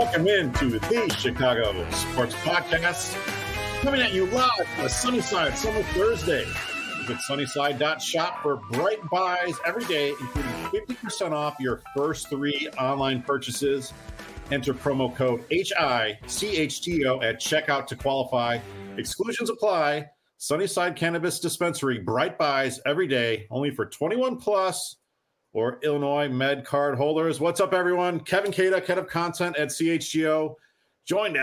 Welcome into the Chicago Sports Podcast, coming at you live on a Sunnyside Summer Thursday. Visit sunnyside.shop for bright buys every day, including 50% off your first 3 online purchases. Enter promo code HICHTO at checkout to qualify. Exclusions apply. Sunnyside Cannabis Dispensary, bright buys every day, only for 21 plus or Illinois Med card holders. What's up, everyone? Kevin Kaduk, head of content at CHGO, joined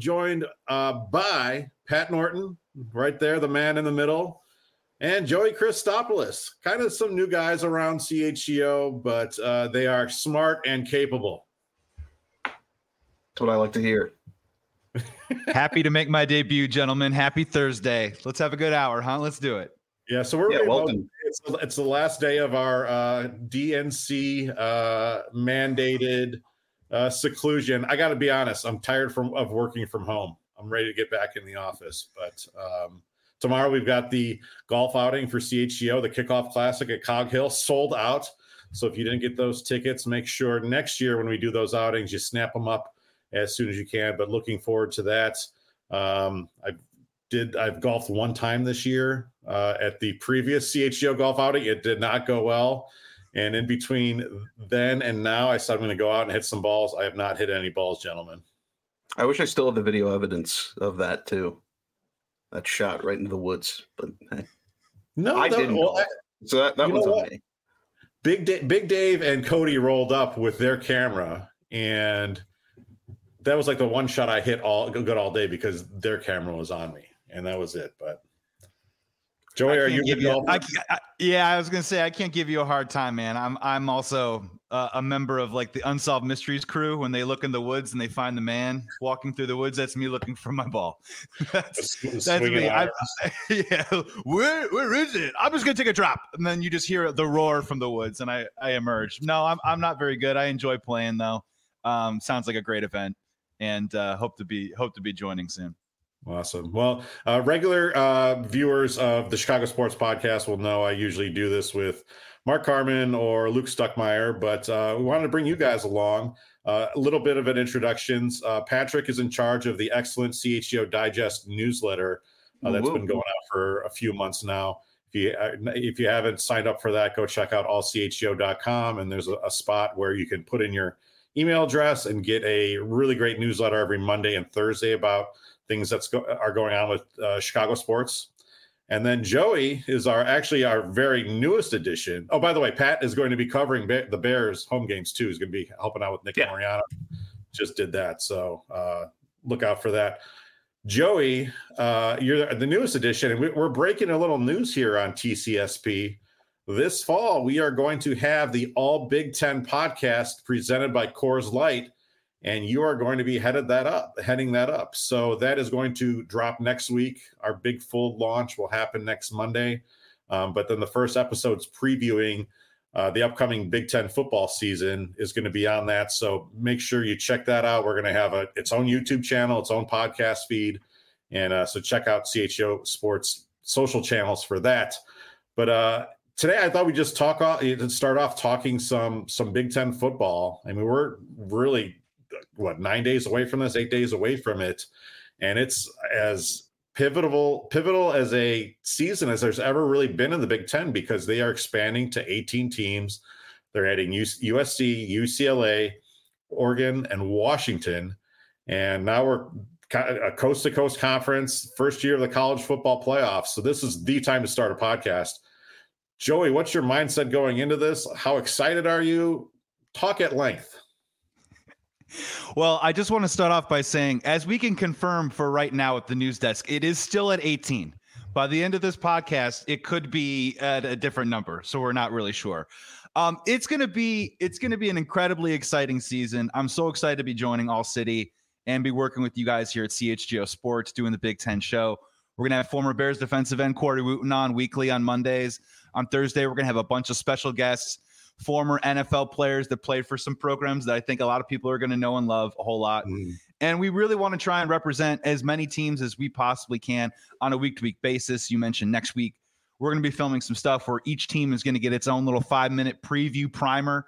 by Pat Norton, right there, the man in the middle, and Joey Christopoulos. Kind of some new guys around CHGO, but they are smart and capable. That's what I like to hear. Happy to make my debut, gentlemen. Happy Thursday. Let's have a good hour, huh? Let's do it. Yeah, so we're welcome. It's the last day of our DNC mandated seclusion. I got to be honest, I'm tired of working from home. I'm ready to get back in the office. But tomorrow we've got the golf outing for CHGO, the Kickoff Classic at Cog Hill, sold out. So if you didn't get those tickets, make sure next year when we do those outings, you snap them up as soon as you can. But looking forward to that. I've golfed one time this year at the previous CHGO golf outing. It did not go well. And in between then and now, I said I'm going to go out and hit some balls. I have not hit any balls, gentlemen. I wish I still had the video evidence of that too. That shot right into the woods. But hey, no, I didn't. So that was on me. Big Dave and Cody rolled up with their camera, and that was like the one shot I hit all day because their camera was on me. And that was it. But Joey, are you good golfer? I was gonna say I can't give you a hard time, man. I'm also a member of like the Unsolved Mysteries crew. When they look in the woods and they find the man walking through the woods, that's me looking for my ball. that's me. Where is it? I'm just gonna take a drop, and then you just hear the roar from the woods, and I emerge. No, I'm not very good. I enjoy playing though. Sounds like a great event, and hope to be joining soon. Awesome. Well, regular viewers of the Chicago Sports Podcast will know I usually do this with Mark Carman or Luke Stuckmeyer, but we wanted to bring you guys along. A little bit of an introductions. Patrick is in charge of the excellent CHGO Digest newsletter that's been going out for a few months now. If you haven't signed up for that, go check out allchgo.com, and there's a spot where you can put in your email address and get a really great newsletter every Monday and Thursday about things are going on with Chicago sports. And then Joey is our very newest addition. Oh, by the way, Pat is going to be covering the Bears home games too. He's going to be helping out with Nick Moriano. Just did that. So look out for that. Joey, you're the newest addition, and we're breaking a little news here on TCSP. This fall, we are going to have the All Big Ten podcast presented by Coors Light, and you are going to be heading that up. So that is going to drop next week. Our big full launch will happen next Monday. But then the first episode's previewing the upcoming Big Ten football season is going to be on that. So make sure you check that out. We're going to have its own YouTube channel, its own podcast feed. And so check out CHGO Sports social channels for that. But today I thought we'd just start off talking some Big Ten football. I mean, we're really 8 days away from it, and it's as pivotal as a season as there's ever really been in the Big Ten, because they are expanding to 18 teams. They're adding USC, UCLA, Oregon, and Washington, and now we're a coast-to-coast conference, first year of the college football playoffs. So this is the time to start a podcast. Joey, what's your mindset going into this? How excited are you? Talk at length. Well, I just want to start off by saying, as we can confirm for right now at the news desk, it is still at 18. By the end of this podcast, it could be at a different number, so we're not really sure. It's going to be an incredibly exciting season. I'm so excited to be joining All City and be working with you guys here at CHGO Sports, doing the Big Ten show. We're going to have former Bears defensive end Corey Wooten on weekly on Mondays. On Thursday, we're going to have a bunch of special guests, former NFL players that played for some programs that I think a lot of people are going to know and love a whole lot. And we really want to try and represent as many teams as we possibly can on a week-to-week basis. You mentioned next week, we're going to be filming some stuff where each team is going to get its own little 5-minute preview primer.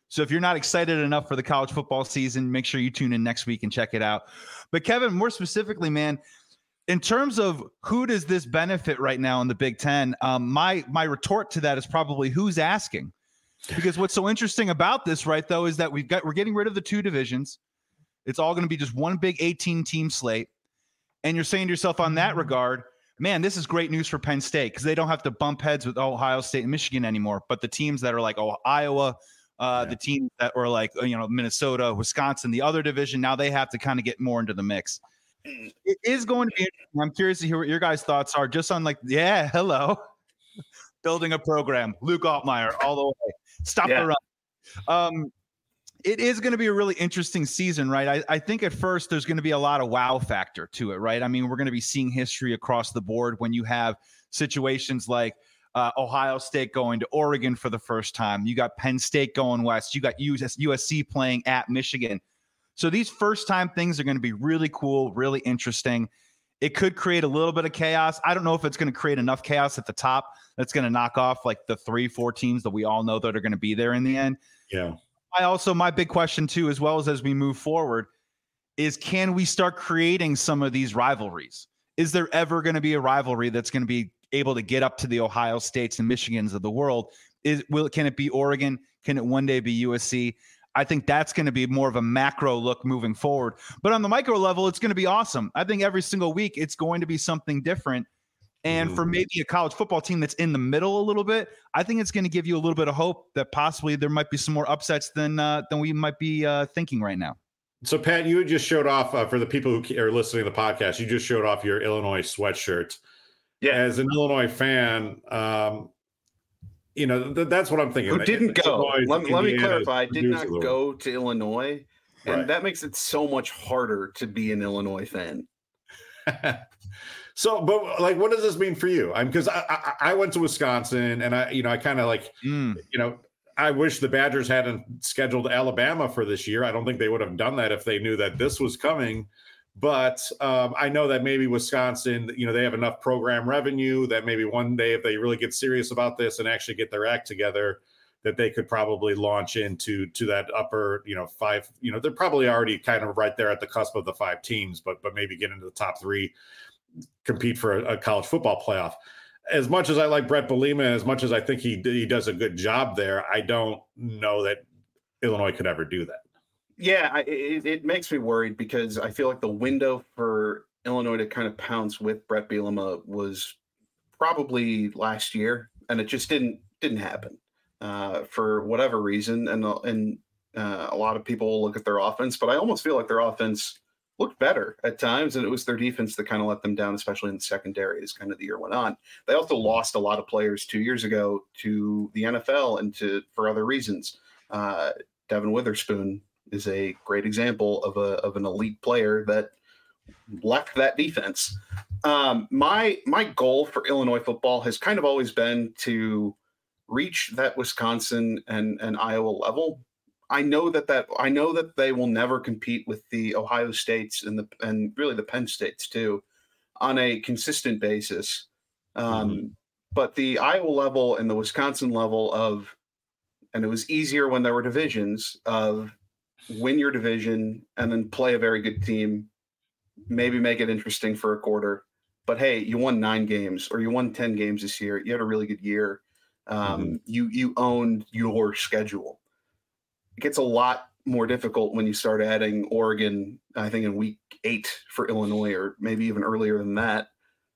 So if you're not excited enough for the college football season, make sure you tune in next week and check it out. But Kevin, more specifically, man, in terms of who does this benefit right now in the Big Ten, my retort to that is probably who's asking. Because what's so interesting about this, right, though, is that we're getting rid of the 2 divisions. It's all going to be just one big 18-team slate. And you're saying to yourself on that regard, man, this is great news for Penn State because they don't have to bump heads with Ohio State and Michigan anymore. But the teams that are like Iowa, the teams that were like, Minnesota, Wisconsin, the other division, now they have to kind of get more into the mix. It is going to be interesting. I'm curious to hear what your guys' thoughts are just on building a program. Luke Altmaier all the way. Stop the run. It is going to be a really interesting season, right? I think at first there's going to be a lot of wow factor to it, right? I mean, we're going to be seeing history across the board when you have situations like Ohio State going to Oregon for the first time. You got Penn State going west. You got USC playing at Michigan. So these first-time things are going to be really cool, really interesting. It could create a little bit of chaos. I don't know if it's going to create enough chaos at the top that's going to knock off like the 3-4 teams that we all know that are going to be there in the end. Yeah. My big question too, as well as we move forward, is can we start creating some of these rivalries? Is there ever going to be a rivalry that's going to be able to get up to the Ohio States and Michigans of the world? Can it be Oregon? Can it one day be USC? I think that's going to be more of a macro look moving forward. But on the micro level, it's going to be awesome. I think every single week it's going to be something different. And for maybe a college football team that's in the middle a little bit, I think it's going to give you a little bit of hope that possibly there might be some more upsets than we might be thinking right now. So, Pat, you just showed off for the people who are listening to the podcast, you just showed off your Illinois sweatshirt. Yeah. As an Illinois fan, that's what I'm thinking. Who didn't go? Let me clarify. I did not go to Illinois, and that makes it so much harder to be an Illinois fan. So, but like, what does this mean for you? Because I went to Wisconsin, and I kind of like, I wish the Badgers hadn't scheduled Alabama for this year. I don't think they would have done that if they knew that this was coming. But I know that maybe Wisconsin, they have enough program revenue that maybe one day, if they really get serious about this and actually get their act together, that they could probably launch into that upper, 5. They're probably already kind of right there at the cusp of the 5 teams, but maybe get into the top 3, compete for a college football playoff. As much as I like Brett Bielema, as much as I think he does a good job there, I don't know that Illinois could ever do that. Yeah, it makes me worried because I feel like the window for Illinois to kind of pounce with Brett Bielema was probably last year, and it just didn't happen for whatever reason. And a lot of people look at their offense, but I almost feel like their offense looked better at times, and it was their defense that kind of let them down, especially in the secondary as kind of the year went on. They also lost a lot of players 2 years ago to the NFL and for other reasons. Devin Witherspoon is a great example of an elite player that left that defense. My goal for Illinois football has kind of always been to reach that Wisconsin and Iowa level. I know that they will never compete with the Ohio States and really the Penn States too on a consistent basis. But the Iowa level and the Wisconsin level and it was easier when there were divisions of win your division and then play a very good team, maybe make it interesting for a quarter. But hey, you won 9 games or you won 10 games this year. You had a really good year. You owned your schedule. It gets a lot more difficult when you start adding Oregon, I think in week 8 for Illinois, or maybe even earlier than that.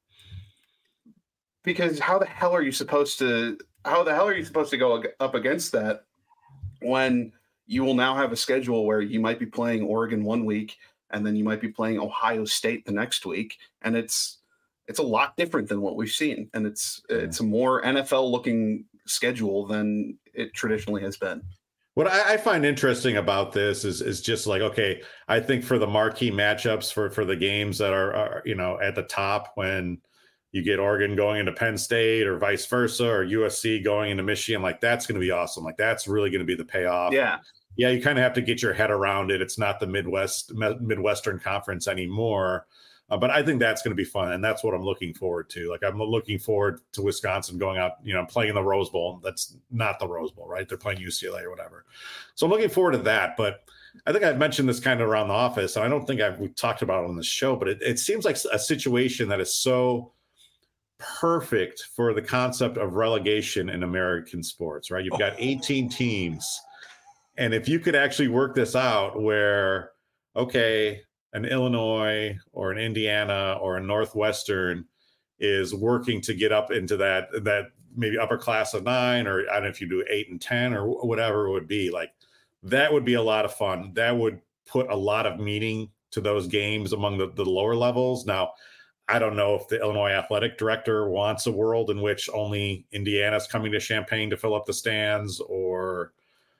Because how the hell are you supposed to go up against that when you will now have a schedule where you might be playing Oregon one week and then you might be playing Ohio State the next week, and it's a lot different than what we've seen, and it's a more NFL looking schedule than it traditionally has been. What I find interesting about this is just like, okay, I think for the marquee matchups for the games that are at the top, when you get Oregon going into Penn State or vice versa, or USC going into Michigan, like that's going to be awesome. Like that's really going to be the payoff. Yeah, you kind of have to get your head around it. It's not the Midwestern Conference anymore. But I think that's going to be fun, and that's what I'm looking forward to. Like, I'm looking forward to Wisconsin going out, playing in the Rose Bowl. That's not the Rose Bowl, right? They're playing UCLA or whatever. So I'm looking forward to that. But I think I've mentioned this kind of around the office, and I don't think we've talked about it on the show, but it seems like a situation that is so perfect for the concept of relegation in American sports, right? You've got 18 teams. And if you could actually work this out where, okay, an Illinois or an Indiana or a Northwestern is working to get up into that maybe upper class of 9, or I don't know if you do 8 and 10 or whatever it would be, like that would be a lot of fun. That would put a lot of meaning to those games among the lower levels. Now, I don't know if the Illinois athletic director wants a world in which only Indiana's coming to Champaign to fill up the stands, or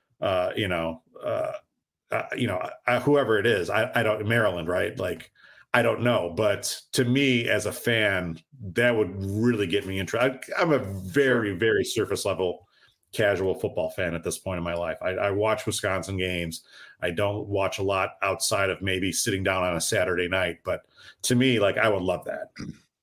whoever it is, I don't, Maryland, right? Like, I don't know. But to me, as a fan, that would really get me interested. I'm a very, very surface level casual football fan at this point in my life. I watch Wisconsin games. I don't watch a lot outside of maybe sitting down on a Saturday night. But to me, like, I would love that.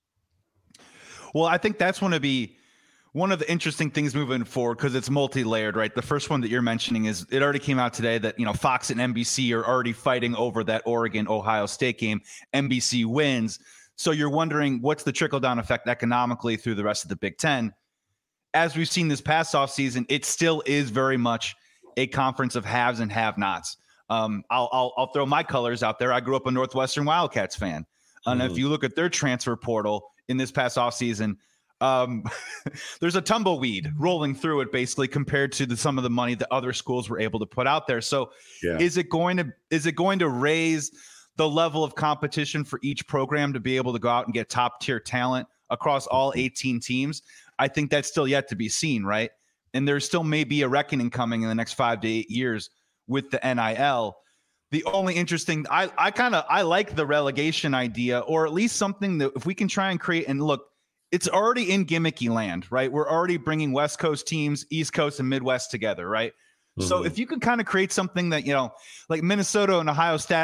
Well, I think that's going to be one of the interesting things moving forward, because it's multi-layered, right? The first one that you're mentioning is, it already came out today that, Fox and NBC are already fighting over that Oregon-Ohio State game. NBC wins. So you're wondering, what's the trickle-down effect economically through the rest of the Big Ten? As we've seen this past offseason, it still is very much a conference of haves and have-nots. I'll throw my colors out there. I grew up a Northwestern Wildcats fan. And if you look at their transfer portal in this past offseason, there's a tumbleweed rolling through it, basically, compared to some of the money that other schools were able to put out there. So is it going to raise the level of competition for each program to be able to go out and get top tier talent across all 18 teams? I think that's still yet to be seen, right? And there still may be a reckoning coming in the next 5 to 8 years with the NIL. The only interesting, I like the relegation idea, or at least something that if we can try and create, and look, it's already in gimmicky land, right? We're already bringing West Coast teams, East Coast and Midwest together, right? Mm-hmm. So if you could kind of create something that, like Minnesota and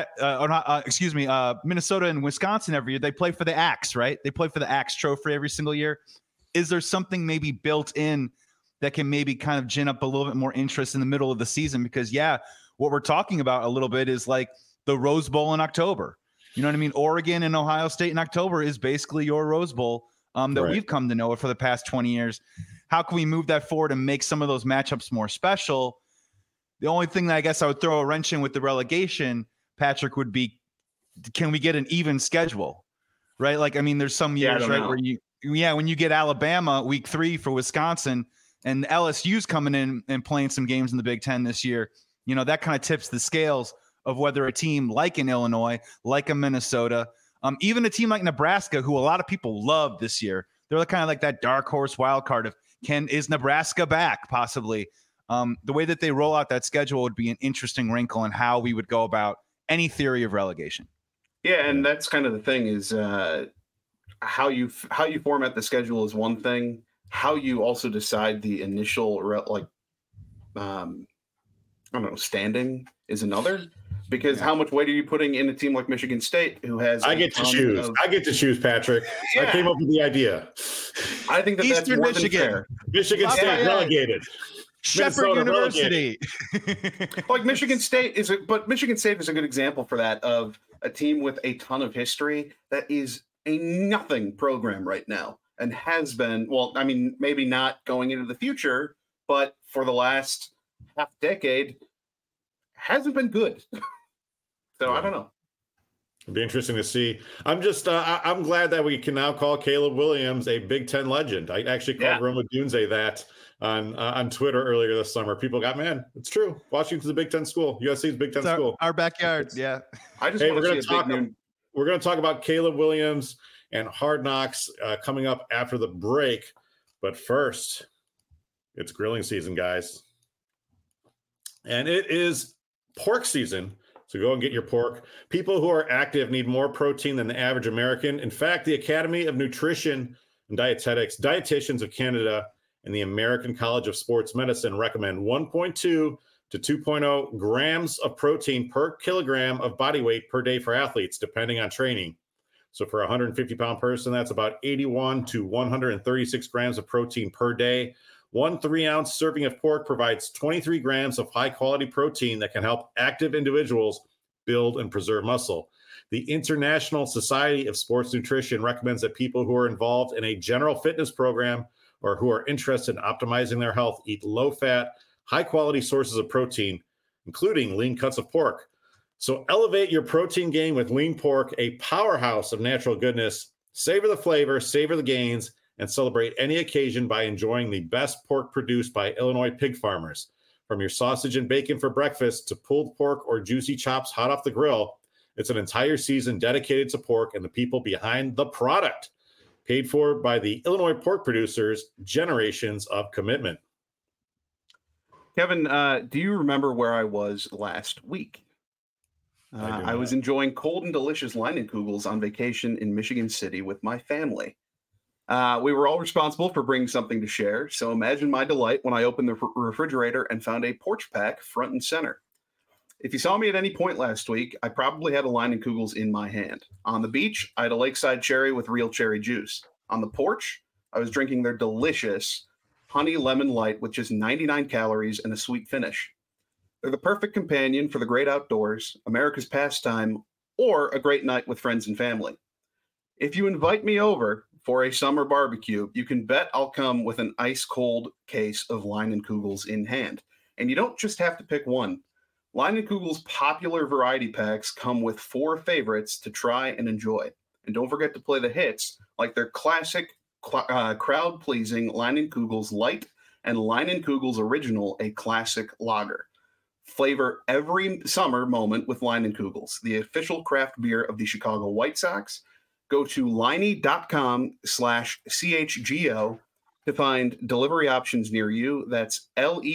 Minnesota and Wisconsin every year, they play for the Axe, right? They play for the Axe Trophy every single year. Is there something maybe built in that can maybe kind of gin up a little bit more interest in the middle of the season? Because, what we're talking about a little bit is like the Rose Bowl in October. You know what I mean? Oregon and Ohio State in October is basically your Rose Bowl that we've come to know it for the past 20 years. How can we move that forward and make some of those matchups more special? The only thing that I guess I would throw a wrench in with the relegation, Patrick, would be, can we get an even schedule, right? Like, I mean, there's some years, right, where when you get Alabama week 3 for Wisconsin, and LSU's coming in and playing some games in the Big Ten this year, that kind of tips the scales of whether a team like an Illinois, like a Minnesota, even a team like Nebraska, who a lot of people love this year, they're kind of like that dark horse wild card of, is Nebraska back possibly? The way that they roll out that schedule would be an interesting wrinkle in how we would go about any theory of relegation. Yeah, and that's kind of the thing is how you format the schedule is one thing. How you also decide the initial standing is another. Because how much weight are you putting in a team like Michigan State, who has? I get to choose, Patrick. Yeah. I came up with the idea. I think that's Eastern more Michigan. Than fair. Michigan State relegated. Shepherd University. Like Michigan State is a good example for that, of a team with a ton of history that is a nothing program right now, and has been. Well, I mean, maybe not going into the future, but for the last half decade, hasn't been good. So I don't know. It'd be interesting to see. I'm just I'm glad that we can now call Caleb Williams a Big Ten legend. I actually called Roma Dunze that on Twitter earlier this summer. People got, man, it's true. Washington's a Big Ten school. USC is a Big Ten school. Our backyard. I just we're going to talk about Caleb Williams and Hard Knocks coming up after the break. But first, it's grilling season, guys. And it is pork season, so go and get your pork. People who are active need more protein than the average American. In fact, the Academy of Nutrition and Dietetics, Dietitians of Canada, and the American College of Sports Medicine recommend 1.2 to 2.0 grams of protein per kilogram of body weight per day for athletes, depending on training. So for a 150-pound person, that's about 81 to 136 grams of protein per day. 1 3-ounce serving of pork provides 23 grams of high-quality protein that can help active individuals build and preserve muscle. The International Society of Sports Nutrition recommends that people who are involved in a general fitness program or who are interested in optimizing their health eat low-fat, high-quality sources of protein, including lean cuts of pork. So elevate your protein game with lean pork, a powerhouse of natural goodness. Savor the flavor, savor the gains, and celebrate any occasion by enjoying the best pork produced by Illinois pig farmers. From your sausage and bacon for breakfast to pulled pork or juicy chops hot off the grill, it's an entire season dedicated to pork and the people behind the product. Paid for by the Illinois pork producers, generations of commitment. Kevin, do you remember where I was last week? I was enjoying cold and delicious Leinenkugels on vacation in Michigan City with my family. We were all responsible for bringing something to share, so imagine my delight when I opened the refrigerator and found a porch pack front and center. If you saw me at any point last week, I probably had a Leinenkugels in my hand. On the beach, I had a lakeside cherry with real cherry juice. On the porch, I was drinking their delicious honey lemon light with just 99 calories and a sweet finish. They're the perfect companion for the great outdoors, America's pastime, or a great night with friends and family. If you invite me over for a summer barbecue, you can bet I'll come with an ice-cold case of Leinenkugels in hand. And you don't just have to pick one. Leinenkugels' popular variety packs come with 4 favorites to try and enjoy. And don't forget to play the hits, like their classic crowd-pleasing Leinenkugels Light and Leinenkugels Original, a classic lager. Flavor every summer moment with Leinenkugels, the official craft beer of the Chicago White Sox. Go to Leinie.com/CHGO to find delivery options near you. That's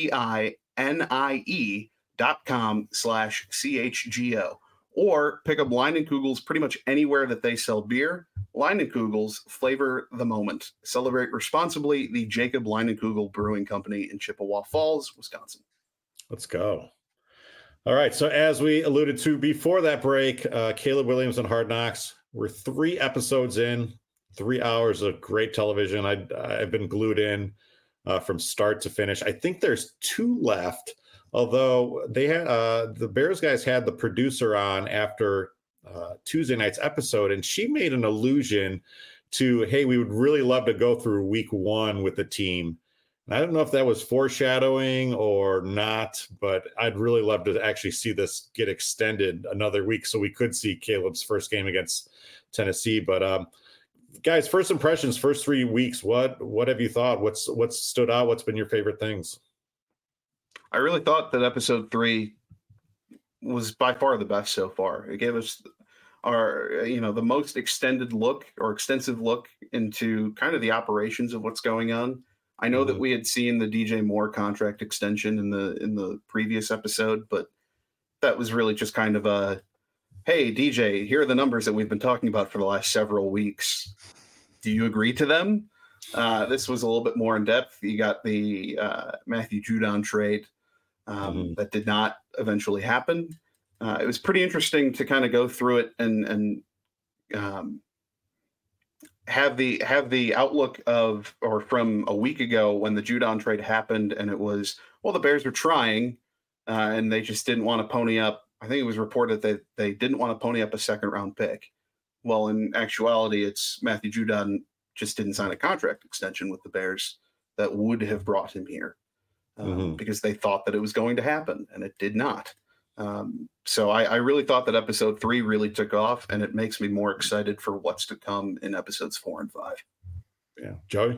LEINIE.com/CHGO. Or pick up Leinenkugels pretty much anywhere that they sell beer. Leinenkugels, flavor the moment. Celebrate responsibly. The Jacob Leinenkugel Brewing Company in Chippewa Falls, Wisconsin. Let's go. All right. So as we alluded to before that break, Caleb Williams on Hard Knocks. We're 3 episodes in, 3 hours of great television. I've been glued in from start to finish. I think there's 2 left, although they had the Bears guys had the producer on after Tuesday night's episode, and she made an allusion to, hey, we would really love to go through week 1 with the team. And I don't know if that was foreshadowing or not, but I'd really love to actually see this get extended another week so we could see Caleb's first game against Tennessee. But guys, first impressions, first 3 weeks, what have you thought? What's stood out? What's been your favorite things? I really thought that episode 3 was by far the best so far. It gave us the most extended look or extensive look into kind of the operations of what's going on. I know that we had seen the DJ Moore contract extension in the previous episode, but that was really just kind of a, hey, DJ, here are the numbers that we've been talking about for the last several weeks. Do you agree to them? This was a little bit more in depth. You got the Matthew Judon trade that did not eventually happen. It was pretty interesting to kind of go through it and have the outlook of, or from a week ago when the Judon trade happened, and it was, well, the Bears were trying and they just didn't want to pony up. I think it was reported that they didn't want to pony up a 2nd-round pick. Well, in actuality, it's Matthew Judon just didn't sign a contract extension with the Bears that would have brought him here because they thought that it was going to happen, and it did not. So I really thought that episode 3 really took off, and it makes me more excited for what's to come in episodes 4 and 5. Yeah. Joey?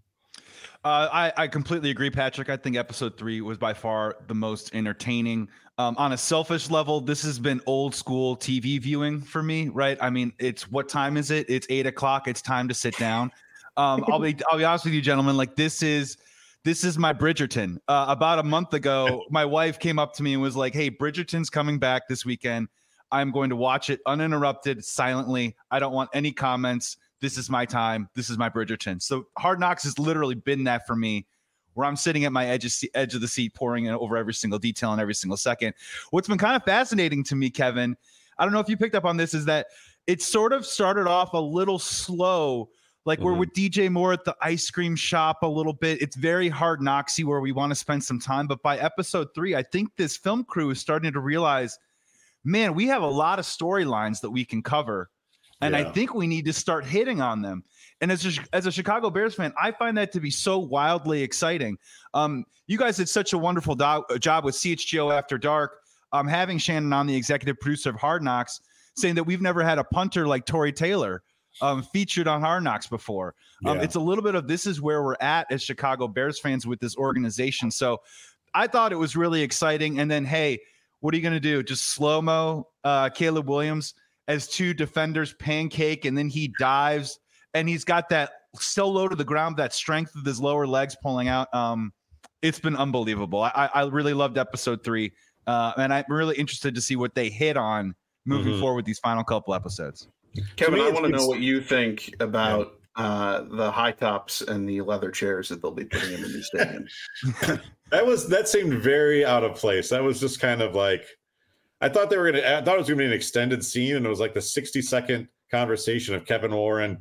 I completely agree, Patrick. I think episode 3 was by far the most entertaining. On a selfish level, this has been old school TV viewing for me, right? I mean, what time is it? It's 8:00. It's time to sit down. I'll be honest with you, gentlemen. Like this is my Bridgerton. About a month ago, my wife came up to me and was like, hey, Bridgerton's coming back this weekend. I'm going to watch it uninterrupted, silently. I don't want any comments. This is my time. This is my Bridgerton. So Hard Knocks has literally been that for me, where I'm sitting at my edge of the seat, pouring in over every single detail and every single second. What's been kind of fascinating to me, Kevin, I don't know if you picked up on this, is that it sort of started off a little slow. Like we're with DJ Moore at the ice cream shop a little bit. It's very Hard Knocksy where we want to spend some time. But by episode 3, I think this film crew is starting to realize, man, we have a lot of storylines that we can cover. And I think we need to start hitting on them. And as a Chicago Bears fan, I find that to be so wildly exciting. You guys did such a wonderful job with CHGO After Dark, having Shannon on, the executive producer of Hard Knocks, saying that we've never had a punter like Tory Taylor featured on Hard Knocks before. It's a little bit of this is where we're at as Chicago Bears fans with this organization. So I thought it was really exciting. And then, hey, what are you going to do? Just slow-mo Caleb Williams as 2 defenders pancake, and then he dives, and he's got that so low to the ground, that strength with his lower legs pulling out. It's been unbelievable. I really loved episode 3, and I'm really interested to see what they hit on moving forward with these final couple episodes. Kevin, I want to know what you think about the high tops and the leather chairs that they'll be putting in the new stadium. That seemed very out of place. That was just kind of like, I thought it was going to be an extended scene, and it was like the 60-second conversation of Kevin Warren.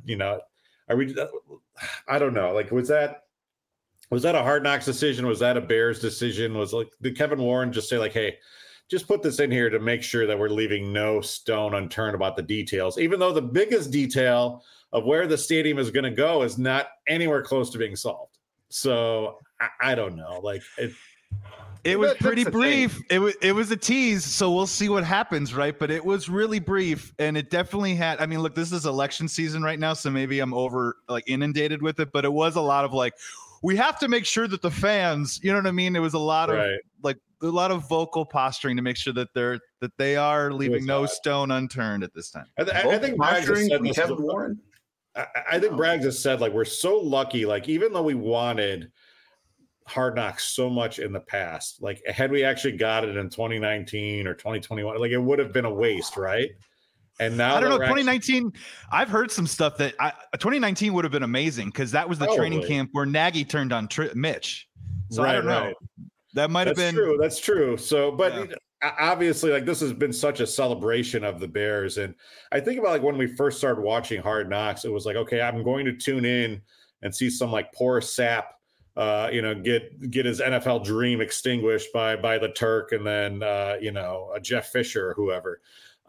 I don't know. Like, was that a Hard Knocks decision? Was that a Bears decision? Did Kevin Warren just say like, hey, just put this in here to make sure that we're leaving no stone unturned about the details, even though the biggest detail of where the stadium is going to go is not anywhere close to being solved. So I don't know. Like it was pretty brief. It was a tease, so we'll see what happens, right? But it was really brief, and it definitely had. I mean, look, this is election season right now, so maybe I'm inundated with it. But it was a lot of like, we have to make sure that the fans, you know what I mean? It was a lot of a lot of vocal posturing to make sure that they are leaving no stone unturned at this time. I think posturing from Kevin Warren. I think Braggs has said like, we're so lucky. Like, even though we wanted Hard Knocks so much in the past, like had we actually got it in 2019 or 2021, like it would have been a waste, right? And now I don't know. 2019, I've heard some stuff that 2019 would have been amazing because that was the training camp where Nagy turned on Mitch. So I don't know. That might have been true. That's true. So, but obviously, like this has been such a celebration of the Bears, and I think about like when we first started watching Hard Knocks, it was like, okay, I'm going to tune in and see some like poor sap, get his NFL dream extinguished by the Turk, and then a Jeff Fisher or whoever.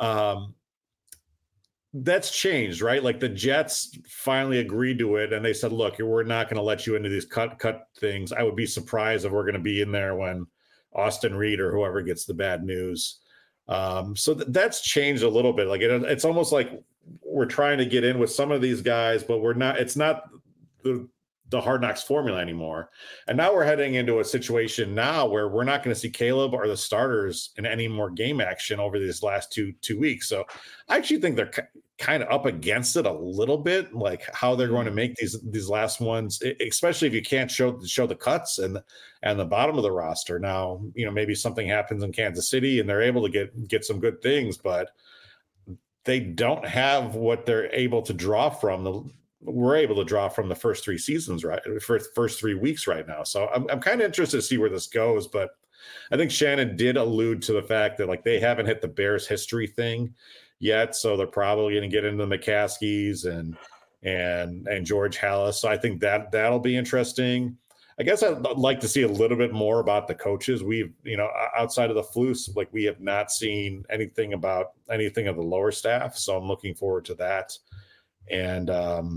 That's changed, right? Like the Jets finally agreed to it, and they said, "Look, we're not going to let you into these cut things." I would be surprised if we're going to be in there when Austin Reed or whoever gets the bad news. So that's changed a little bit. Like it's almost like we're trying to get in with some of these guys, but we're not. It's not the Hard Knocks formula anymore. And now we're heading into a situation now where we're not going to see Caleb or the starters in any more game action over these last two weeks. So I actually think they're kind of up against it a little bit, like how they're going to make these last ones, especially if you can't show the cuts and the bottom of the roster. Now, maybe something happens in Kansas City and they're able to get some good things, but they don't have what they're able to draw from. We're able to draw from the first 3 seasons, right? First 3 weeks right now. So I'm kind of interested to see where this goes, but I think Shannon did allude to the fact that like they haven't hit the Bears history thing yet. So they're probably going to get into the McCaskies and George Halas. So I think that'll be interesting. I guess I'd like to see a little bit more about the coaches. We've, outside of the Flus, like we have not seen anything about anything of the lower staff. So I'm looking forward to that. And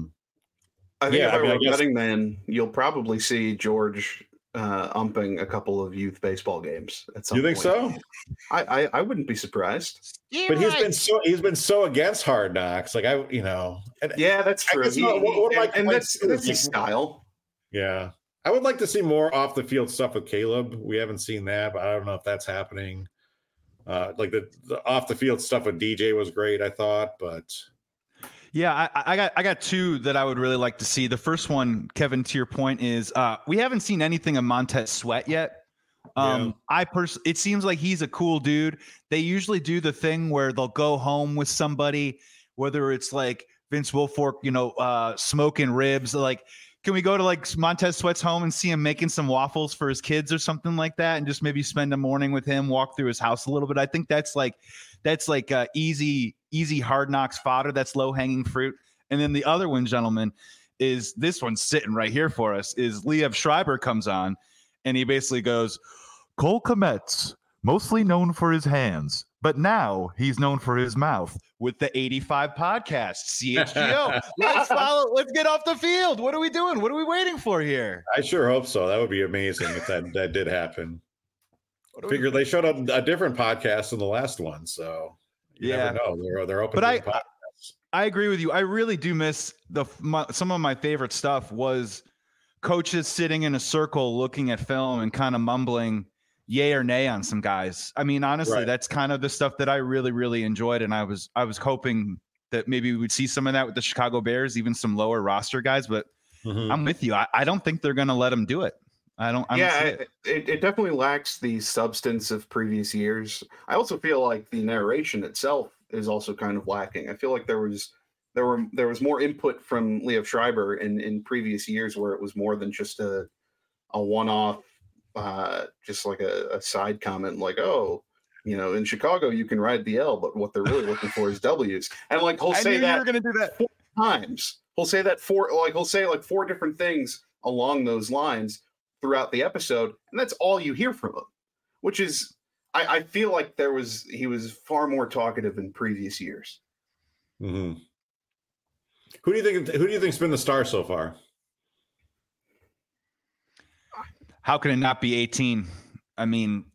I think if I were a betting man, you'll probably see George umping a couple of youth baseball games at some point. You think so? I wouldn't be surprised. But he's been so against Hard Knocks. Like that's true. That's his style. Yeah. I would like to see more off the field stuff with Caleb. We haven't seen that, but I don't know if that's happening. Like the off the field stuff with DJ was great, I thought, but yeah, I got 2 that I would really like to see. The first one, Kevin, to your point, is we haven't seen anything of Montez Sweat yet. It seems like he's a cool dude. They usually do the thing where they'll go home with somebody, whether it's like Vince Wilfork, smoking ribs. Like, can we go to like Montez Sweat's home and see him making some waffles for his kids or something like that, and just maybe spend a morning with him, walk through his house a little bit? I think that's like easy easy Hard Knocks fodder. That's low hanging fruit. And then the other one, gentlemen, is this one's sitting right here for us. Is Liev Schreiber comes on, and he basically goes, Cole Kmet's mostly known for his hands, but now he's known for his mouth with the 85 podcast, CHGO. Let's get off the field. What are we doing? What are we waiting for here? I sure hope so. That would be amazing if that did happen. Figure they showed up a different podcast in the last one, so you never know. They're open. But I agree with you. I really do miss some of my favorite stuff was coaches sitting in a circle looking at film and kind of mumbling yay or nay on some guys. I mean, honestly, that's kind of the stuff that I really, really enjoyed. And I was hoping that maybe we would see some of that with the Chicago Bears, even some lower roster guys, but I'm with you. I don't think they're going to let them do it. I don't see it. It definitely lacks the substance of previous years. I also feel like the narration itself is also kind of lacking. I feel like there was more input from Liev Schreiber in previous years where it was more than just a one-off, just like a side comment, like, oh, you know, in Chicago you can ride the L, but what they're really looking for is W's. And like he'll say that you're gonna do that 4 times. He'll say that he'll say like 4 different things along those lines throughout the episode, and that's all you hear from him. Which is, I feel like he was far more talkative in previous years. Mm-hmm. Who do you think's been the star so far? How can it not be 18? I mean,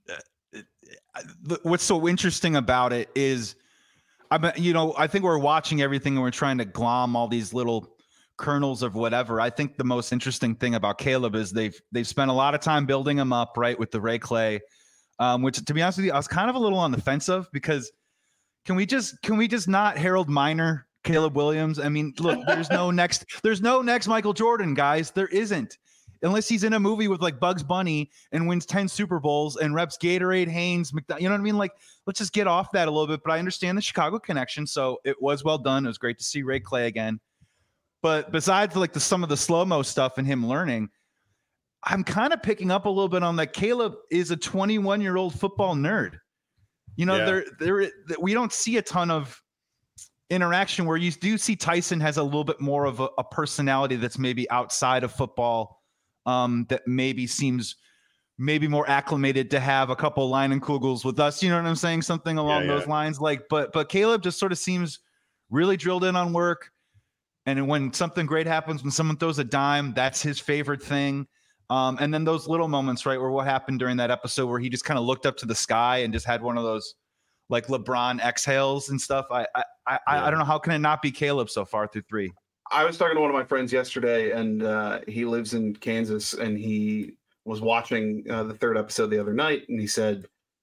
what's so interesting about it is, I think we're watching everything and we're trying to glom all these little kernels of whatever. I think the most interesting thing about Caleb is they've spent a lot of time building him up, right, with the Ray Clay, which, to be honest with you, I was kind of a little on the fence of, because can we just not Harold Miner Caleb Williams? I mean, look, there's no next Michael Jordan, guys. There isn't. Unless he's in a movie with like Bugs Bunny and wins 10 Super Bowls and reps Gatorade, Hanes, McDonald, you know what I mean? Like, let's just get off that a little bit. But I understand the Chicago connection, so it was well done. It was great to see Ray Clay again. But besides like some of the slow-mo stuff and him learning, I'm kind of picking up a little bit on that Caleb is a 21-year-old football nerd. You know, we don't see a ton of interaction where you do see Tyson has a little bit more of a personality that's maybe outside of football. That maybe seems more acclimated to have a couple Leinenkugels with us. You know what I'm saying? Something along those lines. Like, but Caleb just sort of seems really drilled in on work. And when something great happens, when someone throws a dime, that's his favorite thing. And then those little moments, right, where what happened during that episode where he just kind of looked up to the sky and just had one of those like LeBron exhales and stuff. I don't know, how can it not be Caleb so far through 3? I was talking to one of my friends yesterday, and he lives in Kansas, and he was watching the 3rd episode the other night, and he said,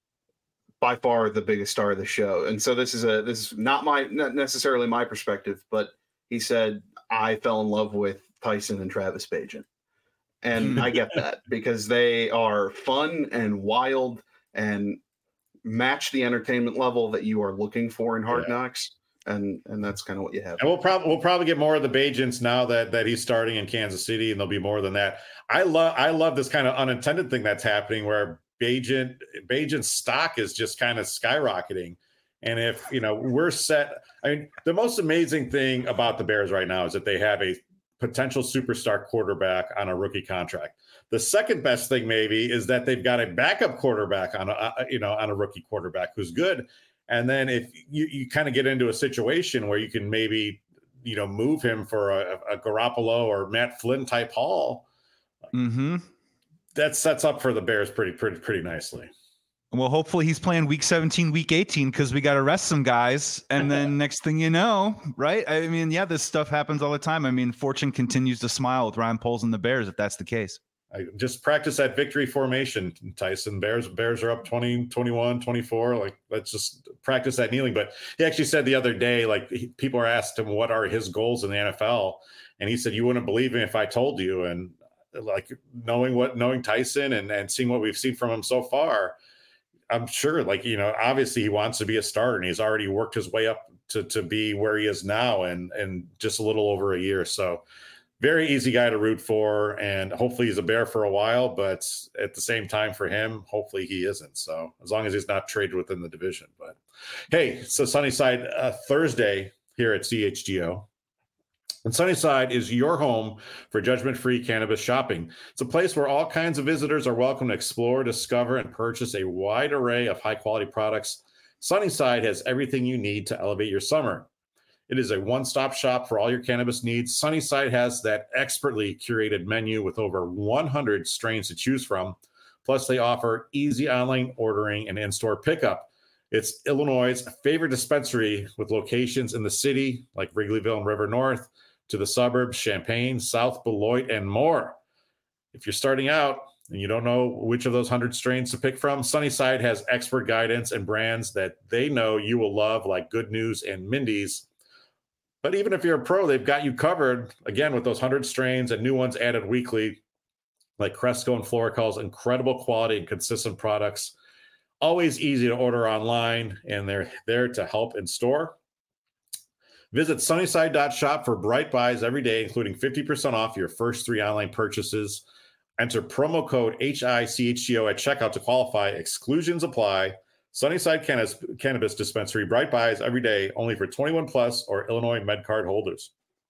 by far the biggest star of the show. And so this is not necessarily my perspective, but he said, I fell in love with Tyson and Travis Bajan. And I get that, because they are fun and wild and match the entertainment level that you are looking for in Hard Knocks. And that's kind of what you have. And we'll probably get more of the Bajents now that he's starting in Kansas City, and there'll be more than that. I love this kind of unintended thing that's happening where Bajent's stock is just kind of skyrocketing. And if we're set, I mean, the most amazing thing about the Bears right now is that they have a potential superstar quarterback on a rookie contract. The second best thing maybe is that they've got a backup quarterback on a rookie quarterback who's good. And then if you kind of get into a situation where you can maybe, move him for a Garoppolo or Matt Flynn type haul, that sets up for the Bears pretty nicely. Well, hopefully he's playing week 17, week 18, because we got to rest some guys. And then next thing you know, right? I mean, this stuff happens all the time. I mean, fortune continues to smile with Ryan Poles and the Bears, if that's the case. I just practice that victory formation, Tyson. Bears are up 20, 21, 24. Like, let's just practice that kneeling. But he actually said the other day, like, people are asked him what are his goals in the NFL, and he said, you wouldn't believe me if I told you. And like, knowing Tyson and seeing what we've seen from him so far, I'm sure, like, obviously he wants to be a starter, and he's already worked his way up to be where he is now, and just a little over a year. So very easy guy to root for, and hopefully he's a Bear for a while, but at the same time for him, hopefully he isn't. So as long as he's not traded within the division. But hey, so Sunnyside Thursday here at CHGO. And Sunnyside is your home for judgment-free cannabis shopping. It's a place where all kinds of visitors are welcome to explore, discover, and purchase a wide array of high-quality products. Sunnyside has everything you need to elevate your summer. It is a one-stop shop for all your cannabis needs. Sunnyside has that expertly curated menu with over 100 strains to choose from. Plus, they offer easy online ordering and in-store pickup. It's Illinois' favorite dispensary with locations in the city like Wrigleyville and River North, to the suburbs, Champaign, South Beloit, and more. If you're starting out and you don't know which of those 100 strains to pick from, Sunnyside has expert guidance and brands that they know you will love, like Good News and Mindy's. But even if you're a pro, they've got you covered, again, with those 100 strains and new ones added weekly, like Cresco and Florical's incredible quality and consistent products. Always easy to order online, and they're there to help in store. Visit sunnyside.shop for bright buys every day, including 50% off your first 3 online purchases. Enter promo code HICHGO at checkout to qualify. Exclusions apply. Sunnyside Cannabis Dispensary, bright buys every day, only for 21 plus or Illinois MedCard holders.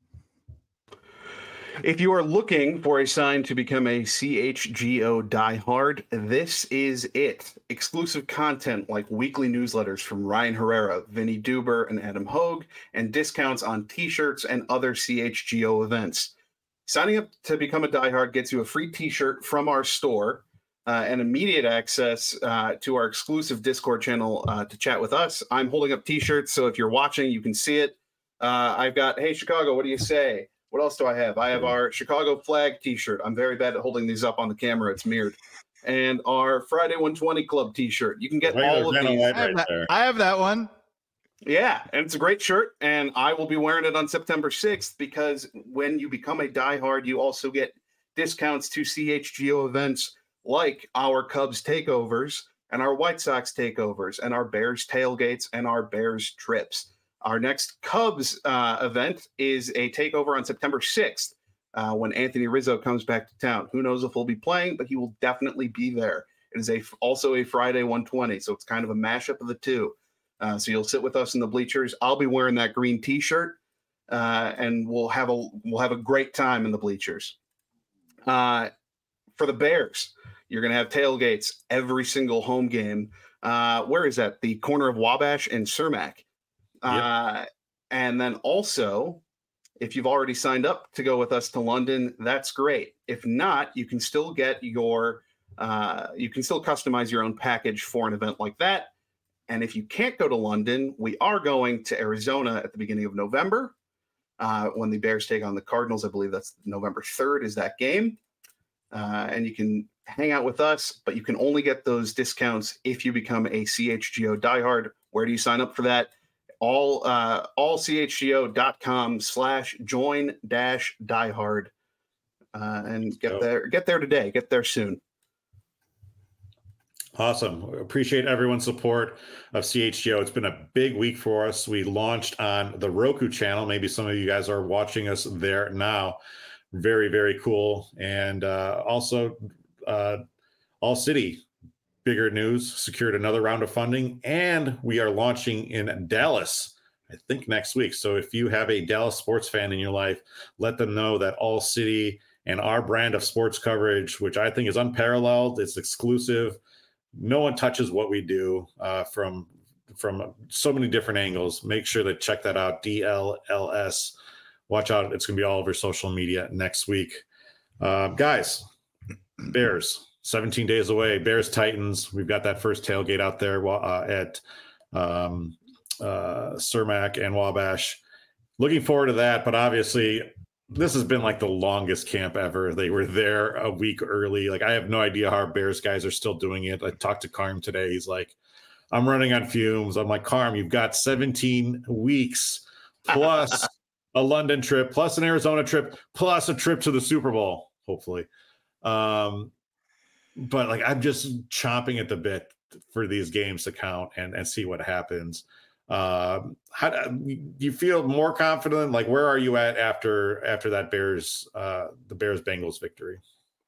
If you are looking for a sign to become a CHGO diehard, this is it. Exclusive content like weekly newsletters from Ryan Herrera, Vinny Duber, and Adam Hogue, and discounts on t-shirts and other CHGO events. Signing up to become a diehard gets you a free t-shirt from our store, and immediate access to our exclusive Discord channel to chat with us. I'm holding up t-shirts, so if you're watching, you can see it. I've got, hey, Chicago, what do you say? What else do I have? I have our Chicago flag t-shirt. I'm very bad at holding these up on the camera. It's mirrored. And our Friday 120 Club t-shirt. You can get all of these. I have that one. Yeah, and it's a great shirt, and I will be wearing it on September 6th because when you become a diehard, you also get discounts to CHGO events like our Cubs takeovers and our White Sox takeovers and our Bears tailgates and our Bears trips. Our next Cubs event is a takeover on September 6th when Anthony Rizzo comes back to town. Who knows if he'll be playing, but he will definitely be there. It is also a Friday 120, so it's kind of a mashup of the two. So you'll sit with us in the bleachers. I'll be wearing that green T-shirt, and we'll have a great time in the bleachers. For the Bears, you're going to have tailgates every single home game. Where is that? The corner of Wabash and Cermak. Yep. And then also, if you've already signed up to go with us to London, that's great. If not, you can still get you can still customize your own package for an event like that. And if you can't go to London, we are going to Arizona at the beginning of November when the Bears take on the Cardinals. I believe that's November 3rd is that game. And you can hang out with us, but you can only get those discounts if you become a CHGO diehard. Where do you sign up for that? All CHGO.com/join-diehard and get there today. Get there soon. Awesome. Appreciate everyone's support of CHGO. It's been a big week for us. We launched on the Roku channel. Maybe some of you guys are watching us there now. Very, very cool. And also All City, bigger news, secured another round of funding, and we are launching in Dallas, I think next week. So if you have a Dallas sports fan in your life, let them know that All City and our brand of sports coverage, which I think is unparalleled, it's exclusive. No one touches what we do from so many different angles. Make sure to check that out, DLLS. Watch out. It's going to be all over social media next week. Guys, Bears. 17 days away. Bears Titans. We've got that first tailgate out there at Cermak and Wabash. Looking forward to that, but obviously this has been like the longest camp ever. They were there a week early. Like, I have no idea how our Bears guys are still doing it. I talked to Carm today. He's like, I'm running on fumes. I'm like, Carm, you've got 17 weeks plus a London trip, plus an Arizona trip, plus a trip to the Super Bowl, hopefully. But like, I'm just chomping at the bit for these games to count and see what happens. How do you feel more confident? Like, where are you at after that the Bears Bengals victory?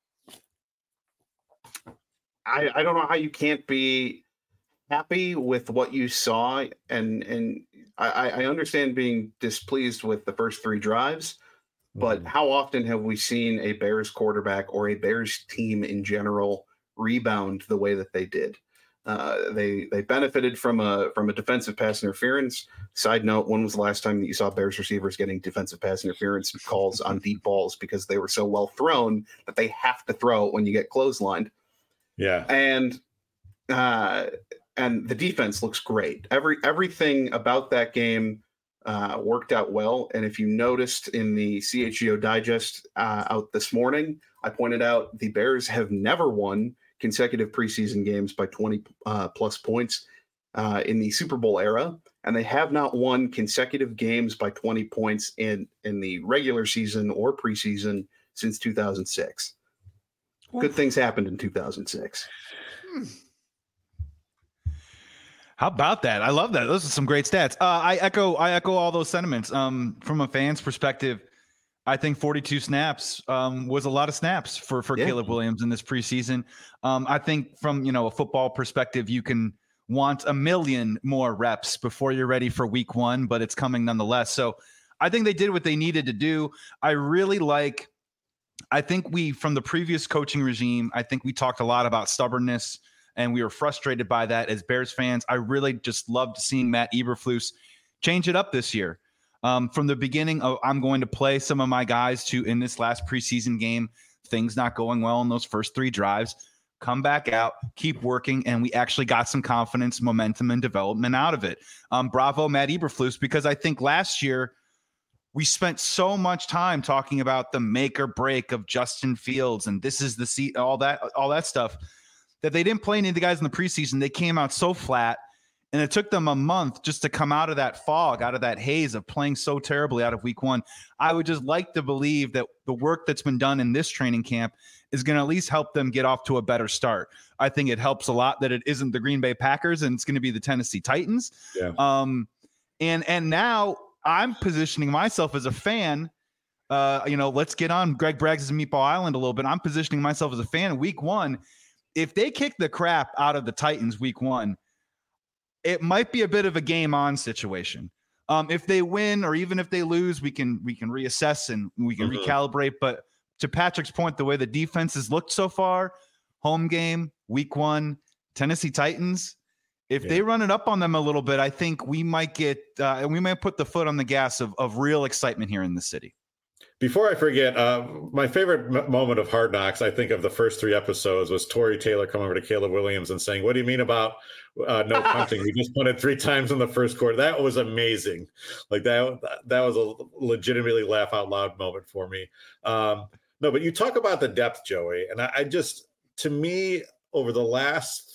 I don't know how you can't be happy with what you saw, and I understand being displeased with the first 3 drives, but how often have we seen a Bears quarterback or a Bears team in general rebound the way that they did? They benefited from a defensive pass interference. Side note: when was the last time that you saw Bears receivers getting defensive pass interference calls on deep balls because they were so well thrown that they have to throw it when you get clotheslined? Yeah, and the defense looks great. Everything about that game worked out well. And if you noticed in the CHGO Digest out this morning, I pointed out the Bears have never won consecutive preseason games by 20 plus points in the Super Bowl era, and they have not won consecutive games by 20 points in the regular season or preseason since 2006. Good things happened in 2006. How about that? I love that. Those are some great stats. I echo all those sentiments. From a fan's perspective, I think 42 snaps was a lot of snaps for Caleb Williams in this preseason. I think from a football perspective, you can want 1 million more reps before you're ready for week 1, but it's coming nonetheless. So I think they did what they needed to do. I think from the previous coaching regime, I think we talked a lot about stubbornness, and we were frustrated by that as Bears fans. I really just loved seeing Matt Eberflus change it up this year. From the beginning, I'm going to play some of my guys in this last preseason game, things not going well in those first 3 drives, come back out, keep working, and we actually got some confidence, momentum, and development out of it. Bravo, Matt Eberflus, because I think last year we spent so much time talking about the make or break of Justin Fields, and this is the seat, all that stuff, that they didn't play any of the guys in the preseason. They came out so flat, and it took them a month just to come out of that fog, out of that haze of playing so terribly out of week 1. I would just like to believe that the work that's been done in this training camp is going to at least help them get off to a better start. I think it helps a lot that it isn't the Green Bay Packers and it's going to be the Tennessee Titans. Yeah. And now I'm positioning myself as a fan. Let's get on Greg Braggs' Meatball Island a little bit. I'm positioning myself as a fan in week 1. If they kick the crap out of the Titans week 1, it might be a bit of a game on situation. If they win or even if they lose, we can reassess and we can recalibrate. But to Patrick's point, the way the defense has looked so far, home game, week 1, Tennessee Titans, if they run it up on them a little bit, I think we might put the foot on the gas of real excitement here in the city. Before I forget, my favorite moment of Hard Knocks, I think, of the first 3 episodes was Tory Taylor coming over to Caleb Williams and saying, "What do you mean about no punting? We just punted 3 times in the first quarter." That was amazing. Like that was a legitimately laugh out loud moment for me. No, but you talk about the depth, Joey, and I just, to me, over the last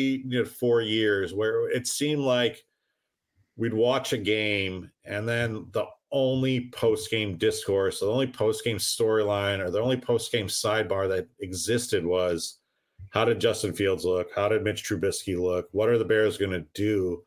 3-4 years, where it seemed like we'd watch a game and then the only post-game discourse, the only post-game storyline, or the only post-game sidebar that existed was, how did Justin Fields look? How did Mitch Trubisky look? What are the Bears going to do?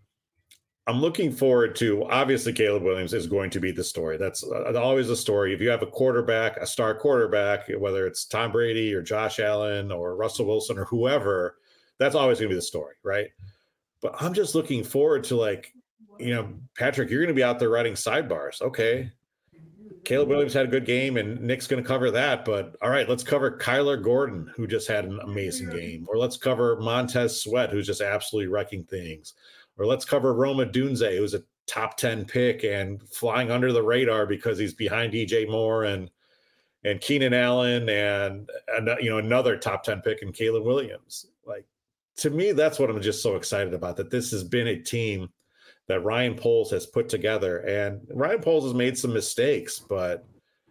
I'm looking forward to, obviously, Caleb Williams is going to be the story. That's always the story. If you have a star quarterback, whether it's Tom Brady or Josh Allen or Russell Wilson or whoever, that's always going to be the story, right? But I'm just looking forward to, Patrick, you're going to be out there writing sidebars. Okay. Caleb Williams had a good game and Nick's going to cover that, but all right, let's cover Kyler Gordon, who just had an amazing game, or let's cover Montez Sweat, who's just absolutely wrecking things, or let's cover Roma Dunze, who's a top 10 pick and flying under the radar because he's behind DJ Moore and Keenan Allen and another top 10 pick in Caleb Williams. Like, to me, that's what I'm just so excited about, that this has been a team that Ryan Poles has put together. And Ryan Poles has made some mistakes, but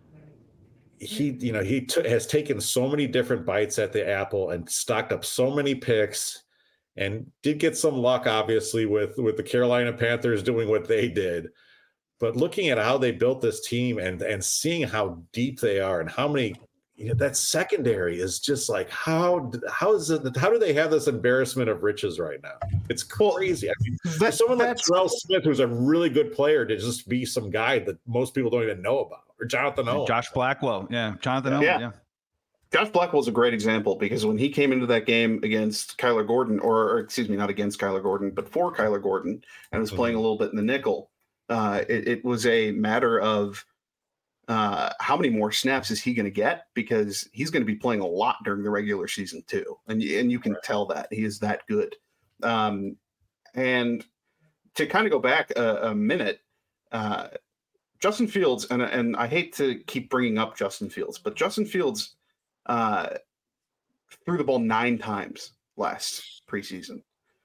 he has taken so many different bites at the apple and stocked up so many picks, and did get some luck, obviously, with the Carolina Panthers doing what they did. But looking at how they built this team and seeing how deep they are and how many that secondary is just like, how do they have this embarrassment of riches right now? It's crazy. I mean, for someone like Terrell Smith, who's a really good player, to just be some guy that most people don't even know about, or Jonathan Owen. Josh Blackwell. Yeah. Jonathan Owen. Yeah. Josh Blackwell's a great example, because when he came into that game against Kyler Gordon, or excuse me, not against Kyler Gordon, but for Kyler Gordon, and was playing a little bit in the nickel, it was a matter of how many more snaps is he going to get, because he's going to be playing a lot during the regular season too. And you can tell that he is that good. And to kind of go back a minute, Justin Fields, and I hate to keep bringing up Justin Fields, but Justin Fields threw the ball 9 times last preseason.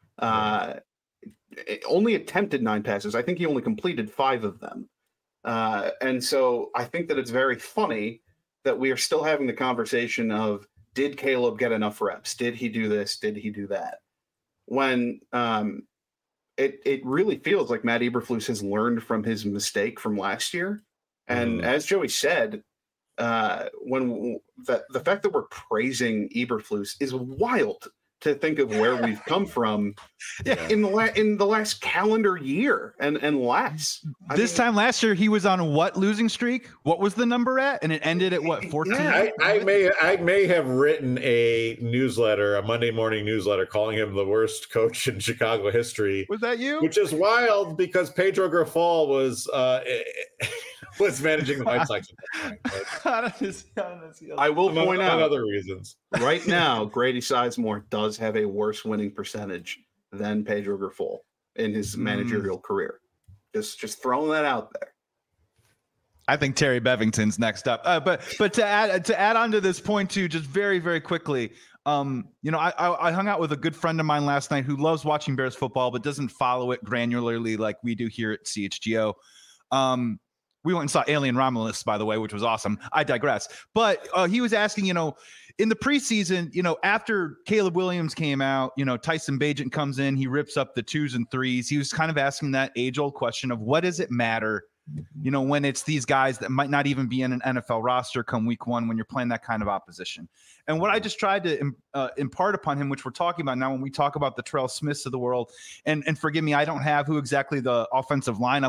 Only attempted 9 passes. I think he only completed 5 of them. And so I think that it's very funny that we are still having the conversation of, did Caleb get enough reps? Did he do this? Did he do that? When it really feels like Matt Eberflus has learned from his mistake from last year. And as Joey said, when the fact that we're praising Eberflus is wild to think of where we've come from in the last calendar year and less. This time last year, he was on what losing streak? What was the number at? And it ended at what, 14? Yeah, I may have written a newsletter, a Monday morning newsletter, calling him the worst coach in Chicago history. Was that you? Which is wild, because Pedro Grifol was managing the White Sox at that point. I will point out, other reasons. Right now, Grady Sizemore does have a worse winning percentage than Pedro Grifol in his managerial career. Just throwing that out there. I think Terry Bevington's next up. But to add on to this point too, just very, very quickly, I hung out with a good friend of mine last night who loves watching Bears football, but doesn't follow it granularly like we do here at CHGO. We went and saw Alien Romulus, by the way, which was awesome. I digress. But he was asking, in the preseason, after Caleb Williams came out, Tyson Bagent comes in, he rips up the 2s and 3s. He was kind of asking that age-old question of, what does it matter, when it's these guys that might not even be in an NFL roster come week 1 when you're playing that kind of opposition. And what I just tried to impart upon him, which we're talking about now when we talk about the Terrell Smiths of the world, and forgive me, I don't have who exactly the offensive line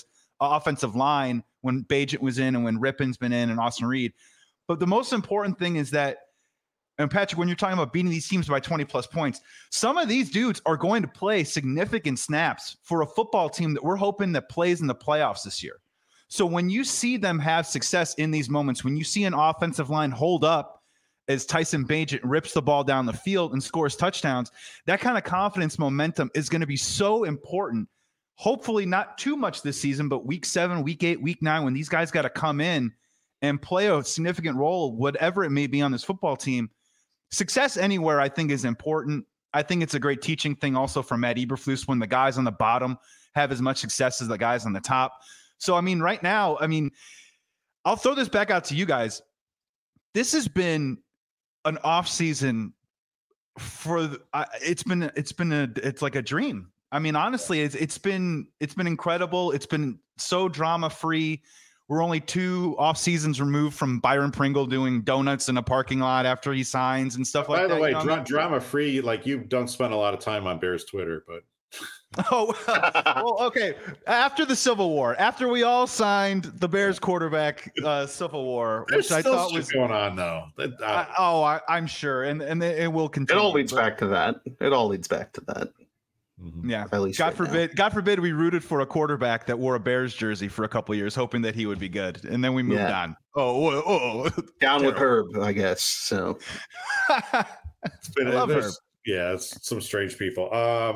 when Bagent was in and when Rippon's been in and Austin Reed. But the most important thing is that, and Patrick, when you're talking about beating these teams by 20 plus points, some of these dudes are going to play significant snaps for a football team that we're hoping that plays in the playoffs this year. So when you see them have success in these moments, when you see an offensive line hold up as Tyson Bagent rips the ball down the field and scores touchdowns, that kind of confidence momentum is going to be so important. Hopefully not too much this season, but week 7, week 8, week 9, when these guys got to come in and play a significant role, whatever it may be on this football team, success anywhere I think is important. I think it's a great teaching thing also for Matt Eberflus when the guys on the bottom have as much success as the guys on the top. So, right now, I'll throw this back out to you guys. This has been an off season it's like a dream. Honestly, it's been incredible. It's been so drama free. We're only 2 off seasons removed from Byron Pringle doing donuts in a parking lot after he signs and stuff like that. By the way, drama free, like, you don't spend a lot of time on Bears Twitter, but. Well, okay. After the Civil War, after we all signed the Bears quarterback Civil War, which I thought was going on though. I'm sure, and it will continue. It all leads back to that. Yeah. At least God forbid we rooted for a quarterback that wore a Bears jersey for a couple of years, hoping that he would be good, and then we moved on. Down with Herb, I guess. So it's some strange people.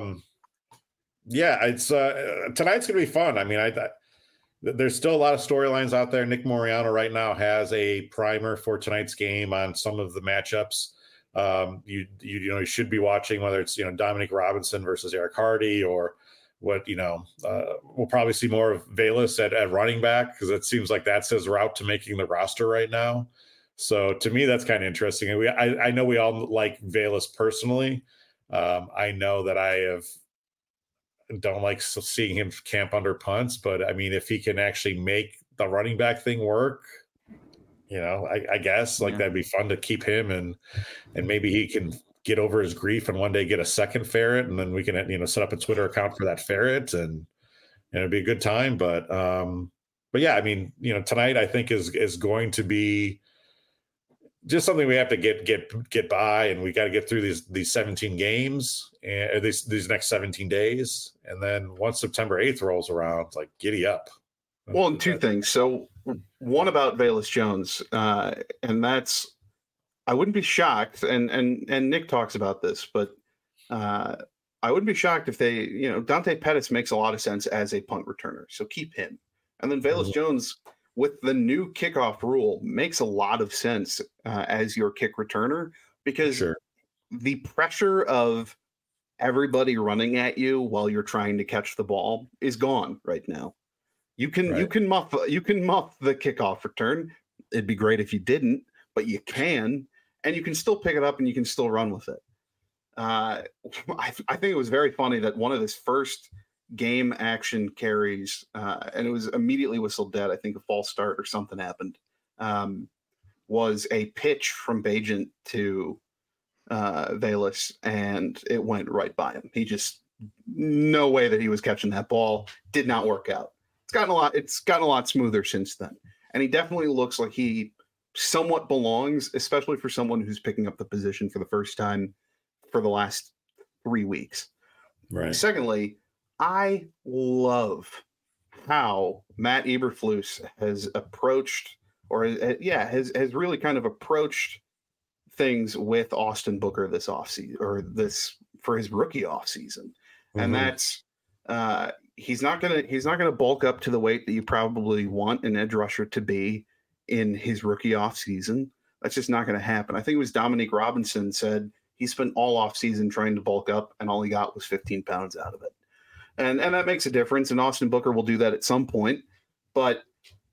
It's tonight's gonna be fun. There's still a lot of storylines out there. Nick Moriano right now has a primer for tonight's game on some of the matchups. You should be watching, whether it's Dominic Robinson versus Eric Hardy, or what we'll probably see more of Velus at running back, because it seems like that's his route to making the roster right now. So to me, that's kind of interesting. And I know we all like Velus personally. I know that don't like seeing him camp under punts, but if he can actually make the running back thing work, I guess that'd be fun to keep him, and maybe he can get over his grief and one day get a second ferret, and then we can set up a Twitter account for that ferret, and it'd be a good time. But yeah, I mean, tonight I think is going to be just something we have to get by, and we got to get through these 17 games and these next 17 days, and then once September 8th rolls around, it's like giddy up. Well, and two things. So one about Velus Jones, and that's, I wouldn't be shocked, and Nick talks about this, but I wouldn't be shocked if they, Dante Pettis makes a lot of sense as a punt returner, so keep him. And then Velus Jones, with the new kickoff rule, makes a lot of sense as your kick returner, because the pressure of everybody running at you while you're trying to catch the ball is gone right now. You can muff the kickoff return. It'd be great if you didn't, but you can, and you can still pick it up and you can still run with it. I think it was very funny that one of his first game action carries, and it was immediately whistled dead. I think a false start or something happened. Was a pitch from Bagent to Velus, and it went right by him. He just, no way that he was catching that ball. Did not work out. It's gotten a lot smoother since then, and he definitely looks like he somewhat belongs, especially for someone who's picking up the position for the first time for the last 3 weeks. Right. Secondly, I love how Matt Eberflus has approached, or has really kind of approached things with Austin Booker this offseason, or this for his rookie offseason. And that's he's not gonna bulk up to the weight that you probably want an edge rusher to be in his rookie offseason. That's just not going to happen. I think it was Dominique Robinson said he spent all offseason trying to bulk up, and all he got was 15 pounds out of it. And that makes a difference, and Austin Booker will do that at some point, but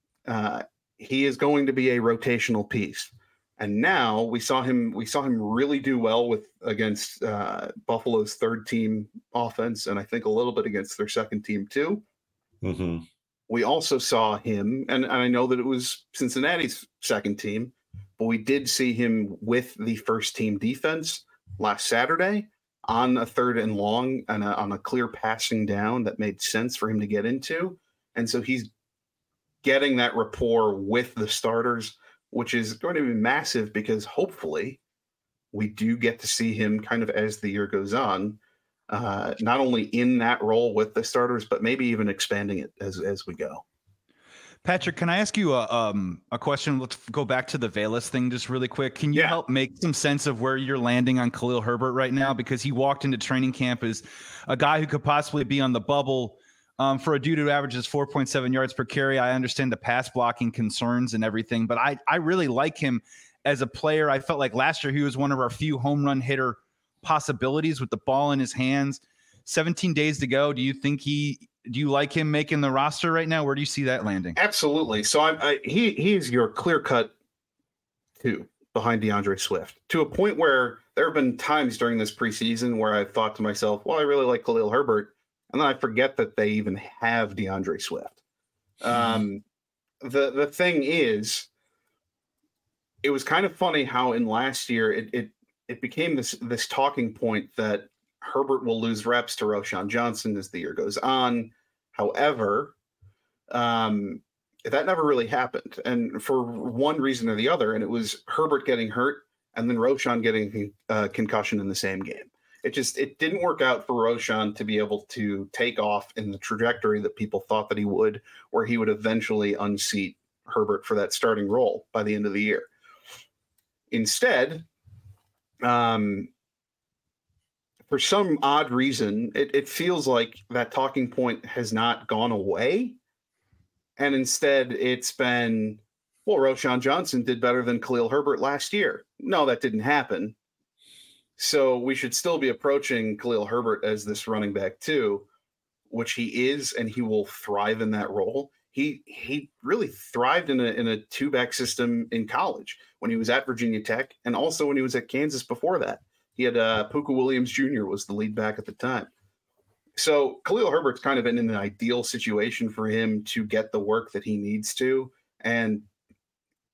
he is going to be a rotational piece. And now we saw him really do well against Buffalo's third team offense, and I think a little bit against their second team too. Mm-hmm. We also saw him, and I know that it was Cincinnati's second team, but we did see him with the first team defense last Saturday on a 3rd and long and on a clear passing down that made sense for him to get into. And so he's getting that rapport with the starters, which is going to be massive, because hopefully we do get to see him kind of as the year goes on, not only in that role with the starters, but maybe even expanding it as we go. Patrick, can I ask you a question? Let's go back to the Velus thing just really quick. Can you help make some sense of where you're landing on Khalil Herbert right now? Because he walked into training camp as a guy who could possibly be on the bubble. For a dude who averages 4.7 yards per carry, I understand the pass blocking concerns and everything, but I really like him as a player. I felt like last year he was one of our few home run hitter possibilities with the ball in his hands. 17 days to go. Do you like him making the roster right now? Where do you see that landing? Absolutely. So he is your clear cut 2 behind DeAndre Swift, to a point where there have been times during this preseason where I've thought to myself, well, I really like Khalil Herbert. And then I forget that they even have DeAndre Swift. The thing is, it was kind of funny how in last year it became this talking point that Herbert will lose reps to Roschon Johnson as the year goes on. However, that never really happened, and for one reason or the other, and it was Herbert getting hurt and then Roschon getting a concussion in the same game. It didn't work out for Roschon to be able to take off in the trajectory that people thought that he would, where he would eventually unseat Herbert for that starting role by the end of the year. Instead, for some odd reason, it feels like that talking point has not gone away. And instead it's been, well, Roschon Johnson did better than Khalil Herbert last year. No, that didn't happen. So we should still be approaching Khalil Herbert as this running back too, which he is, and he will thrive in that role. He really thrived in a 2-back system in college when he was at Virginia Tech, and also when he was at Kansas before that. He had Puka Williams Jr. was the lead back at the time. So Khalil Herbert's kind of in an ideal situation for him to get the work that he needs to, and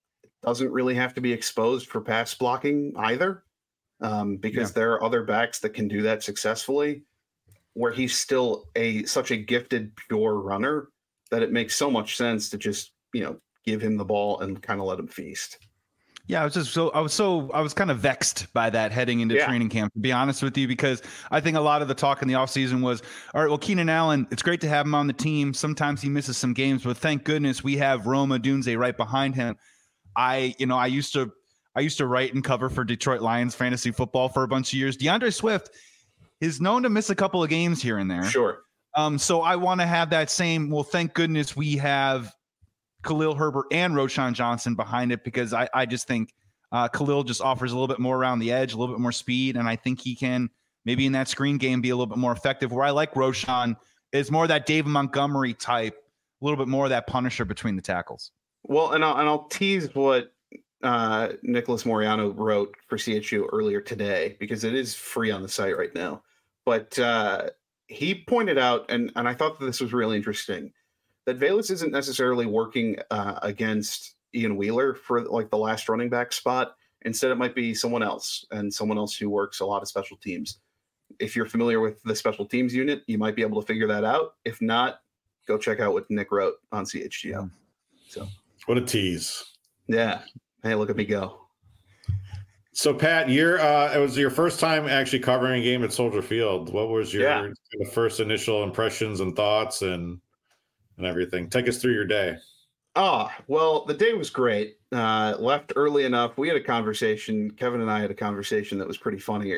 doesn't really have to be exposed for pass blocking either, because there are other backs that can do that successfully, where he's still such a gifted, pure runner that it makes so much sense to just, give him the ball and kind of let him feast. Yeah, I was kind of vexed by that heading into training camp, to be honest with you, because I think a lot of the talk in the offseason was, all right, well, Keenan Allen, it's great to have him on the team. Sometimes he misses some games, but thank goodness we have Rome Odunze right behind him. I used to write and cover for Detroit Lions fantasy football for a bunch of years. DeAndre Swift is known to miss a couple of games here and there. Sure. So I want to have that same, well, thank goodness we have Khalil Herbert and Roschon Johnson behind it, because I just think Khalil just offers a little bit more around the edge, a little bit more speed, and I think he can maybe in that screen game be a little bit more effective. Where I like Roschon is more that David Montgomery type, a little bit more of that punisher between the tackles. Well, and I'll tease what Nicholas Moriano wrote for CHU earlier today, because it is free on the site right now. But he pointed out, and I thought that this was really interesting, that Velus isn't necessarily working against Ian Wheeler for like the last running back spot. Instead, it might be someone else, and someone else who works a lot of special teams. If you're familiar with the special teams unit, you might be able to figure that out. If not, go check out what Nick wrote on CHGO. So, what a tease. Yeah. Hey, look at me go. So, Pat, it was your first time actually covering a game at Soldier Field. What was your first initial impressions and thoughts and everything? Take us through your day. Well, the day was great. Left early enough. We had a conversation. Kevin and I had a conversation that was pretty funny.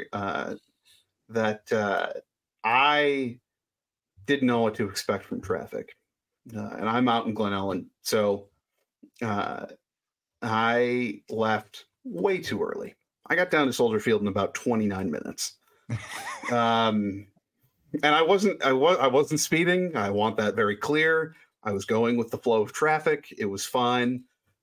That I didn't know what to expect from traffic, and I'm out in Glen Ellen, so I left way too early. I got down to Soldier Field in about 29 minutes. And I wasn't speeding. I want that very clear. I was going with the flow of traffic. It was fine.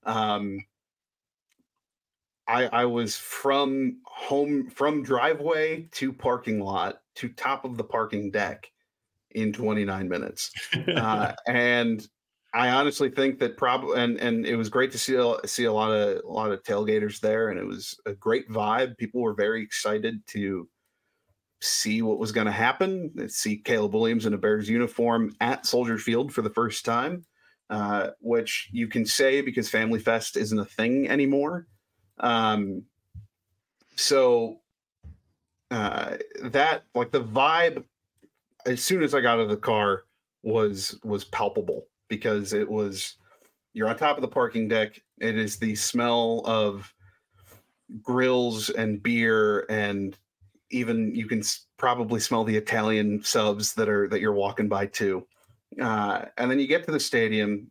I was from driveway to parking lot to top of the parking deck in 29 minutes. And I honestly think that probably, and it was great to see a lot of tailgaters there, and it was a great vibe. People were very excited to see what was going to happen. See Caleb Williams in a Bears uniform at Soldier Field for the first time, which you can say because Family Fest isn't a thing anymore. So that, like, the vibe as soon as I got out of the car was palpable, because you're on top of the parking deck. It is the smell of grills and beer, and even you can probably smell the Italian subs that you're walking by too. And then you get to the stadium.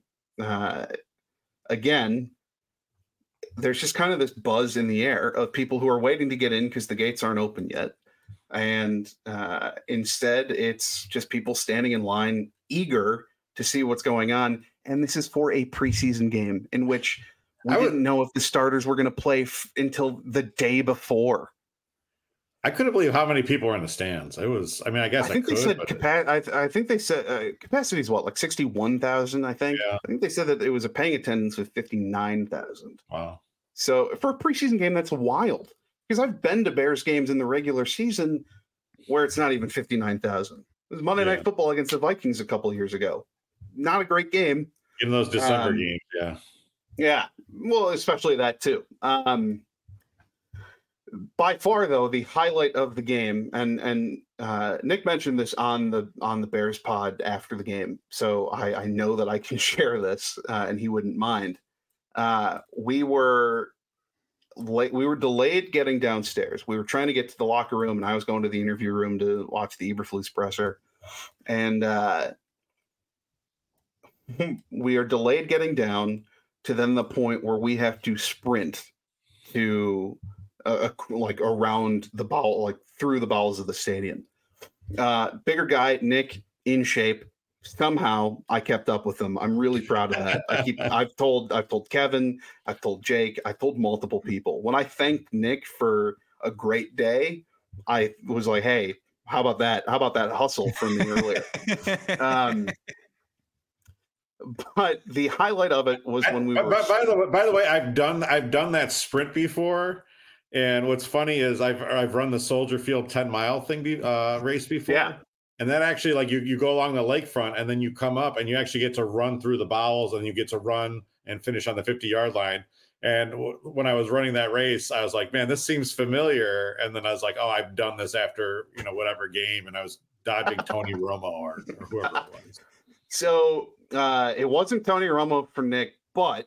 Again, there's just kind of this buzz in the air of people who are waiting to get in because the gates aren't open yet. And instead, it's just people standing in line, eager to see what's going on. And this is for a preseason game in which we didn't know if the starters were going to play until the day before. I couldn't believe how many people were in the stands. I think they said capacity is what, like 61,000, I think. Yeah. I think they said that it was a paying attendance with 59,000. Wow. So for a preseason game, that's wild. Because I've been to Bears games in the regular season where it's not even 59,000. It was Monday Night Football against the Vikings a couple of years ago. Not a great game. In those December games, yeah. Yeah. Well, especially that too. By far, though, the highlight of the game, and Nick mentioned this on the Bears pod after the game, so I know that I can share this, and he wouldn't mind. We were delayed getting downstairs. We were trying to get to the locker room, and I was going to the interview room to watch the Eberflus presser, and we are delayed getting down to then the point where we have to sprint to like around the bowel, like through the bowels of the stadium. Bigger guy, Nick, in shape. Somehow I kept up with him. I'm really proud of that. I've told Kevin, I've told Jake, I told multiple people. When I thanked Nick for a great day, I was like, hey, how about that? How about that hustle from me earlier? But the highlight of it was when we were. By the way, I've done that sprint before, and what's funny is I've run the Soldier Field 10-mile thing race before. Yeah. And that actually, like, you go along the lakefront, and then you come up, and you actually get to run through the bowels, and you get to run and finish on the 50-yard line. And when I was running that race, I was like, man, this seems familiar. And then I was like, oh, I've done this after, whatever game. And I was dodging Tony Romo or whoever it was. So it wasn't Tony Romo for Nick, but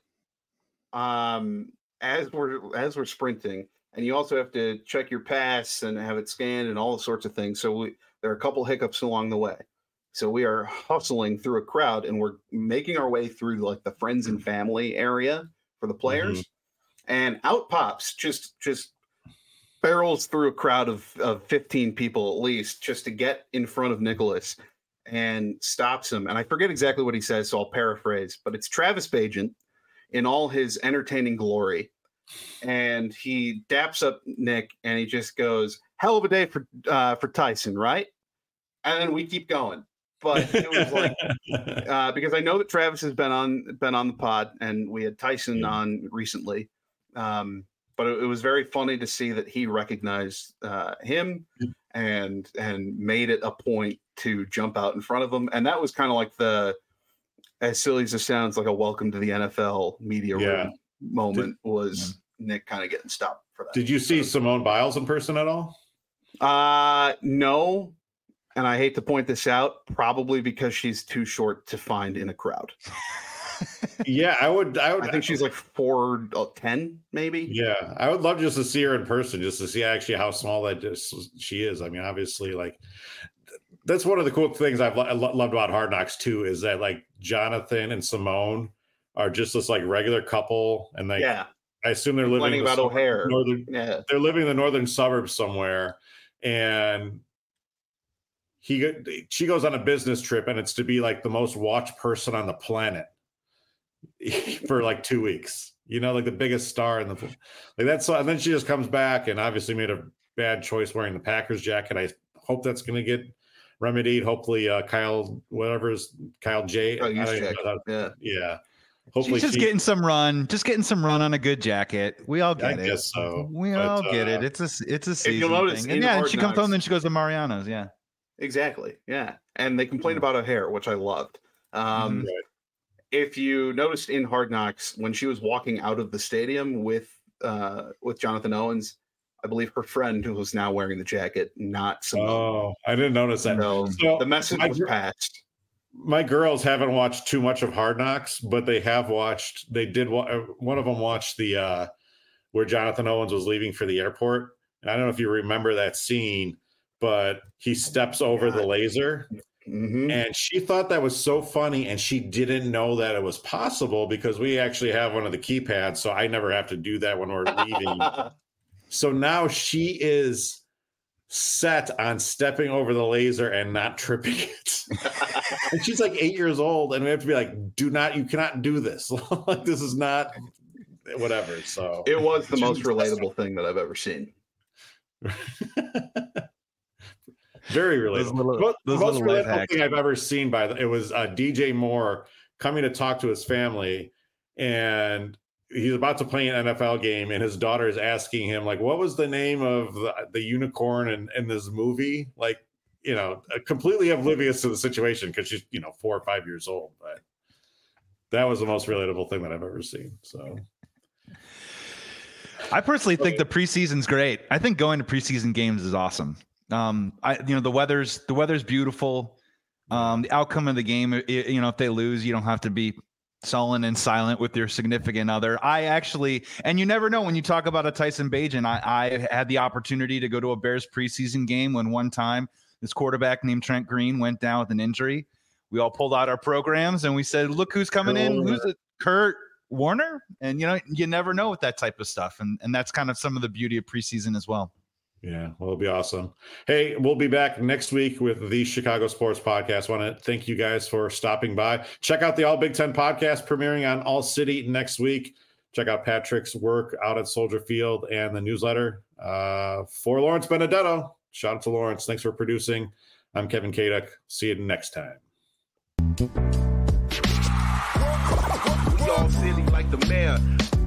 as we're sprinting, and you also have to check your pass and have it scanned and all sorts of things. So there are a couple hiccups along the way. So we are hustling through a crowd, and we're making our way through like the friends and family area for the players. Mm-hmm. And out pops just barrels through a crowd of 15 people at least, just to get in front of Nicholas, and stops him. And I forget exactly what he says, so I'll paraphrase, but it's Travis Bagent in all his entertaining glory. And he daps up Nick, and he just goes, hell of a day for Tyson, right? And then we keep going. But it was like because I know that Travis has been on the pod, and we had Tyson on recently. But it was very funny to see that he recognized him and made it a point to jump out in front of him. And that was kind of like as silly as it sounds, like a welcome to the NFL media room moment was Nick kind of getting stopped for that. Did you see Simone Biles in person at all? No. And I hate to point this out, probably because she's too short to find in a crowd. Yeah, I would. I think she's like 4'10", maybe. Yeah, I would love just to see her in person, just to see actually how small she is. I mean, obviously, like, that's one of the cool things I've loved about Hard Knocks too, is that like Jonathan and Simone are just this like regular couple, and like I assume they're living about O'Hare. They're living in the northern suburbs somewhere, and she goes on a business trip, and it's to be like the most watched person on the planet for like 2 weeks, like the biggest star in the like that's. And then she just comes back and obviously made a bad choice wearing the Packers jacket. I hope that's going to get remedied. Hopefully Kyle J. Yeah. Hopefully she's just getting some run on a good jacket. We all get it. I guess so. We all get it. It's a season you'll notice thing. And she comes home and she goes to Mariano's. Yeah. Exactly. Yeah. And they complained about O'Hare, which I loved. If you noticed in Hard Knocks, when she was walking out of the stadium with Jonathan Owens, I believe her friend, who was now wearing the jacket, not Simone. Oh, I didn't notice that. So the message was passed. My girls haven't watched too much of Hard Knocks, but they have watched. They did. One of them watched the where Jonathan Owens was leaving for the airport. And I don't know if you remember that scene, but he steps over the laser. Mm-hmm. And she thought that was so funny, and she didn't know that it was possible because we actually have one of the keypads, so I never have to do that when we're leaving. So now she is set on stepping over the laser and not tripping it. And she's like 8 years old, and we have to be like, you cannot do this. Like, this is not whatever. So it was the most relatable thing that I've ever seen. Very relatable. The most relatable thing I've ever seen it was DJ Moore coming to talk to his family, and he's about to play an NFL game, and his daughter is asking him, like, what was the name of the unicorn in this movie? Like, completely oblivious to the situation because she's 4 or 5 years old. But that was the most relatable thing that I've ever seen. So I personally think the preseason's great. I think going to preseason games is awesome. The weather's beautiful. The outcome of the game, if they lose, you don't have to be sullen and silent with your significant other. And you never know when you talk about a Tyson Bagent. I had the opportunity to go to a Bears preseason game when one time this quarterback named Trent Green went down with an injury. We all pulled out our programs and we said, look who's coming in. Who's it? Kurt Warner. And you never know with that type of stuff. And that's kind of some of the beauty of preseason as well. Yeah, well, it'll be awesome. Hey, we'll be back next week with the Chicago Sports Podcast. I want to thank you guys for stopping by. Check out the All Big Ten podcast premiering on All City next week. Check out Patrick's work out at Soldier Field and the newsletter. For Lawrence Benedetto, shout out to Lawrence. Thanks for producing. I'm Kevin Kaduk. See you next time. all silly like the mayor.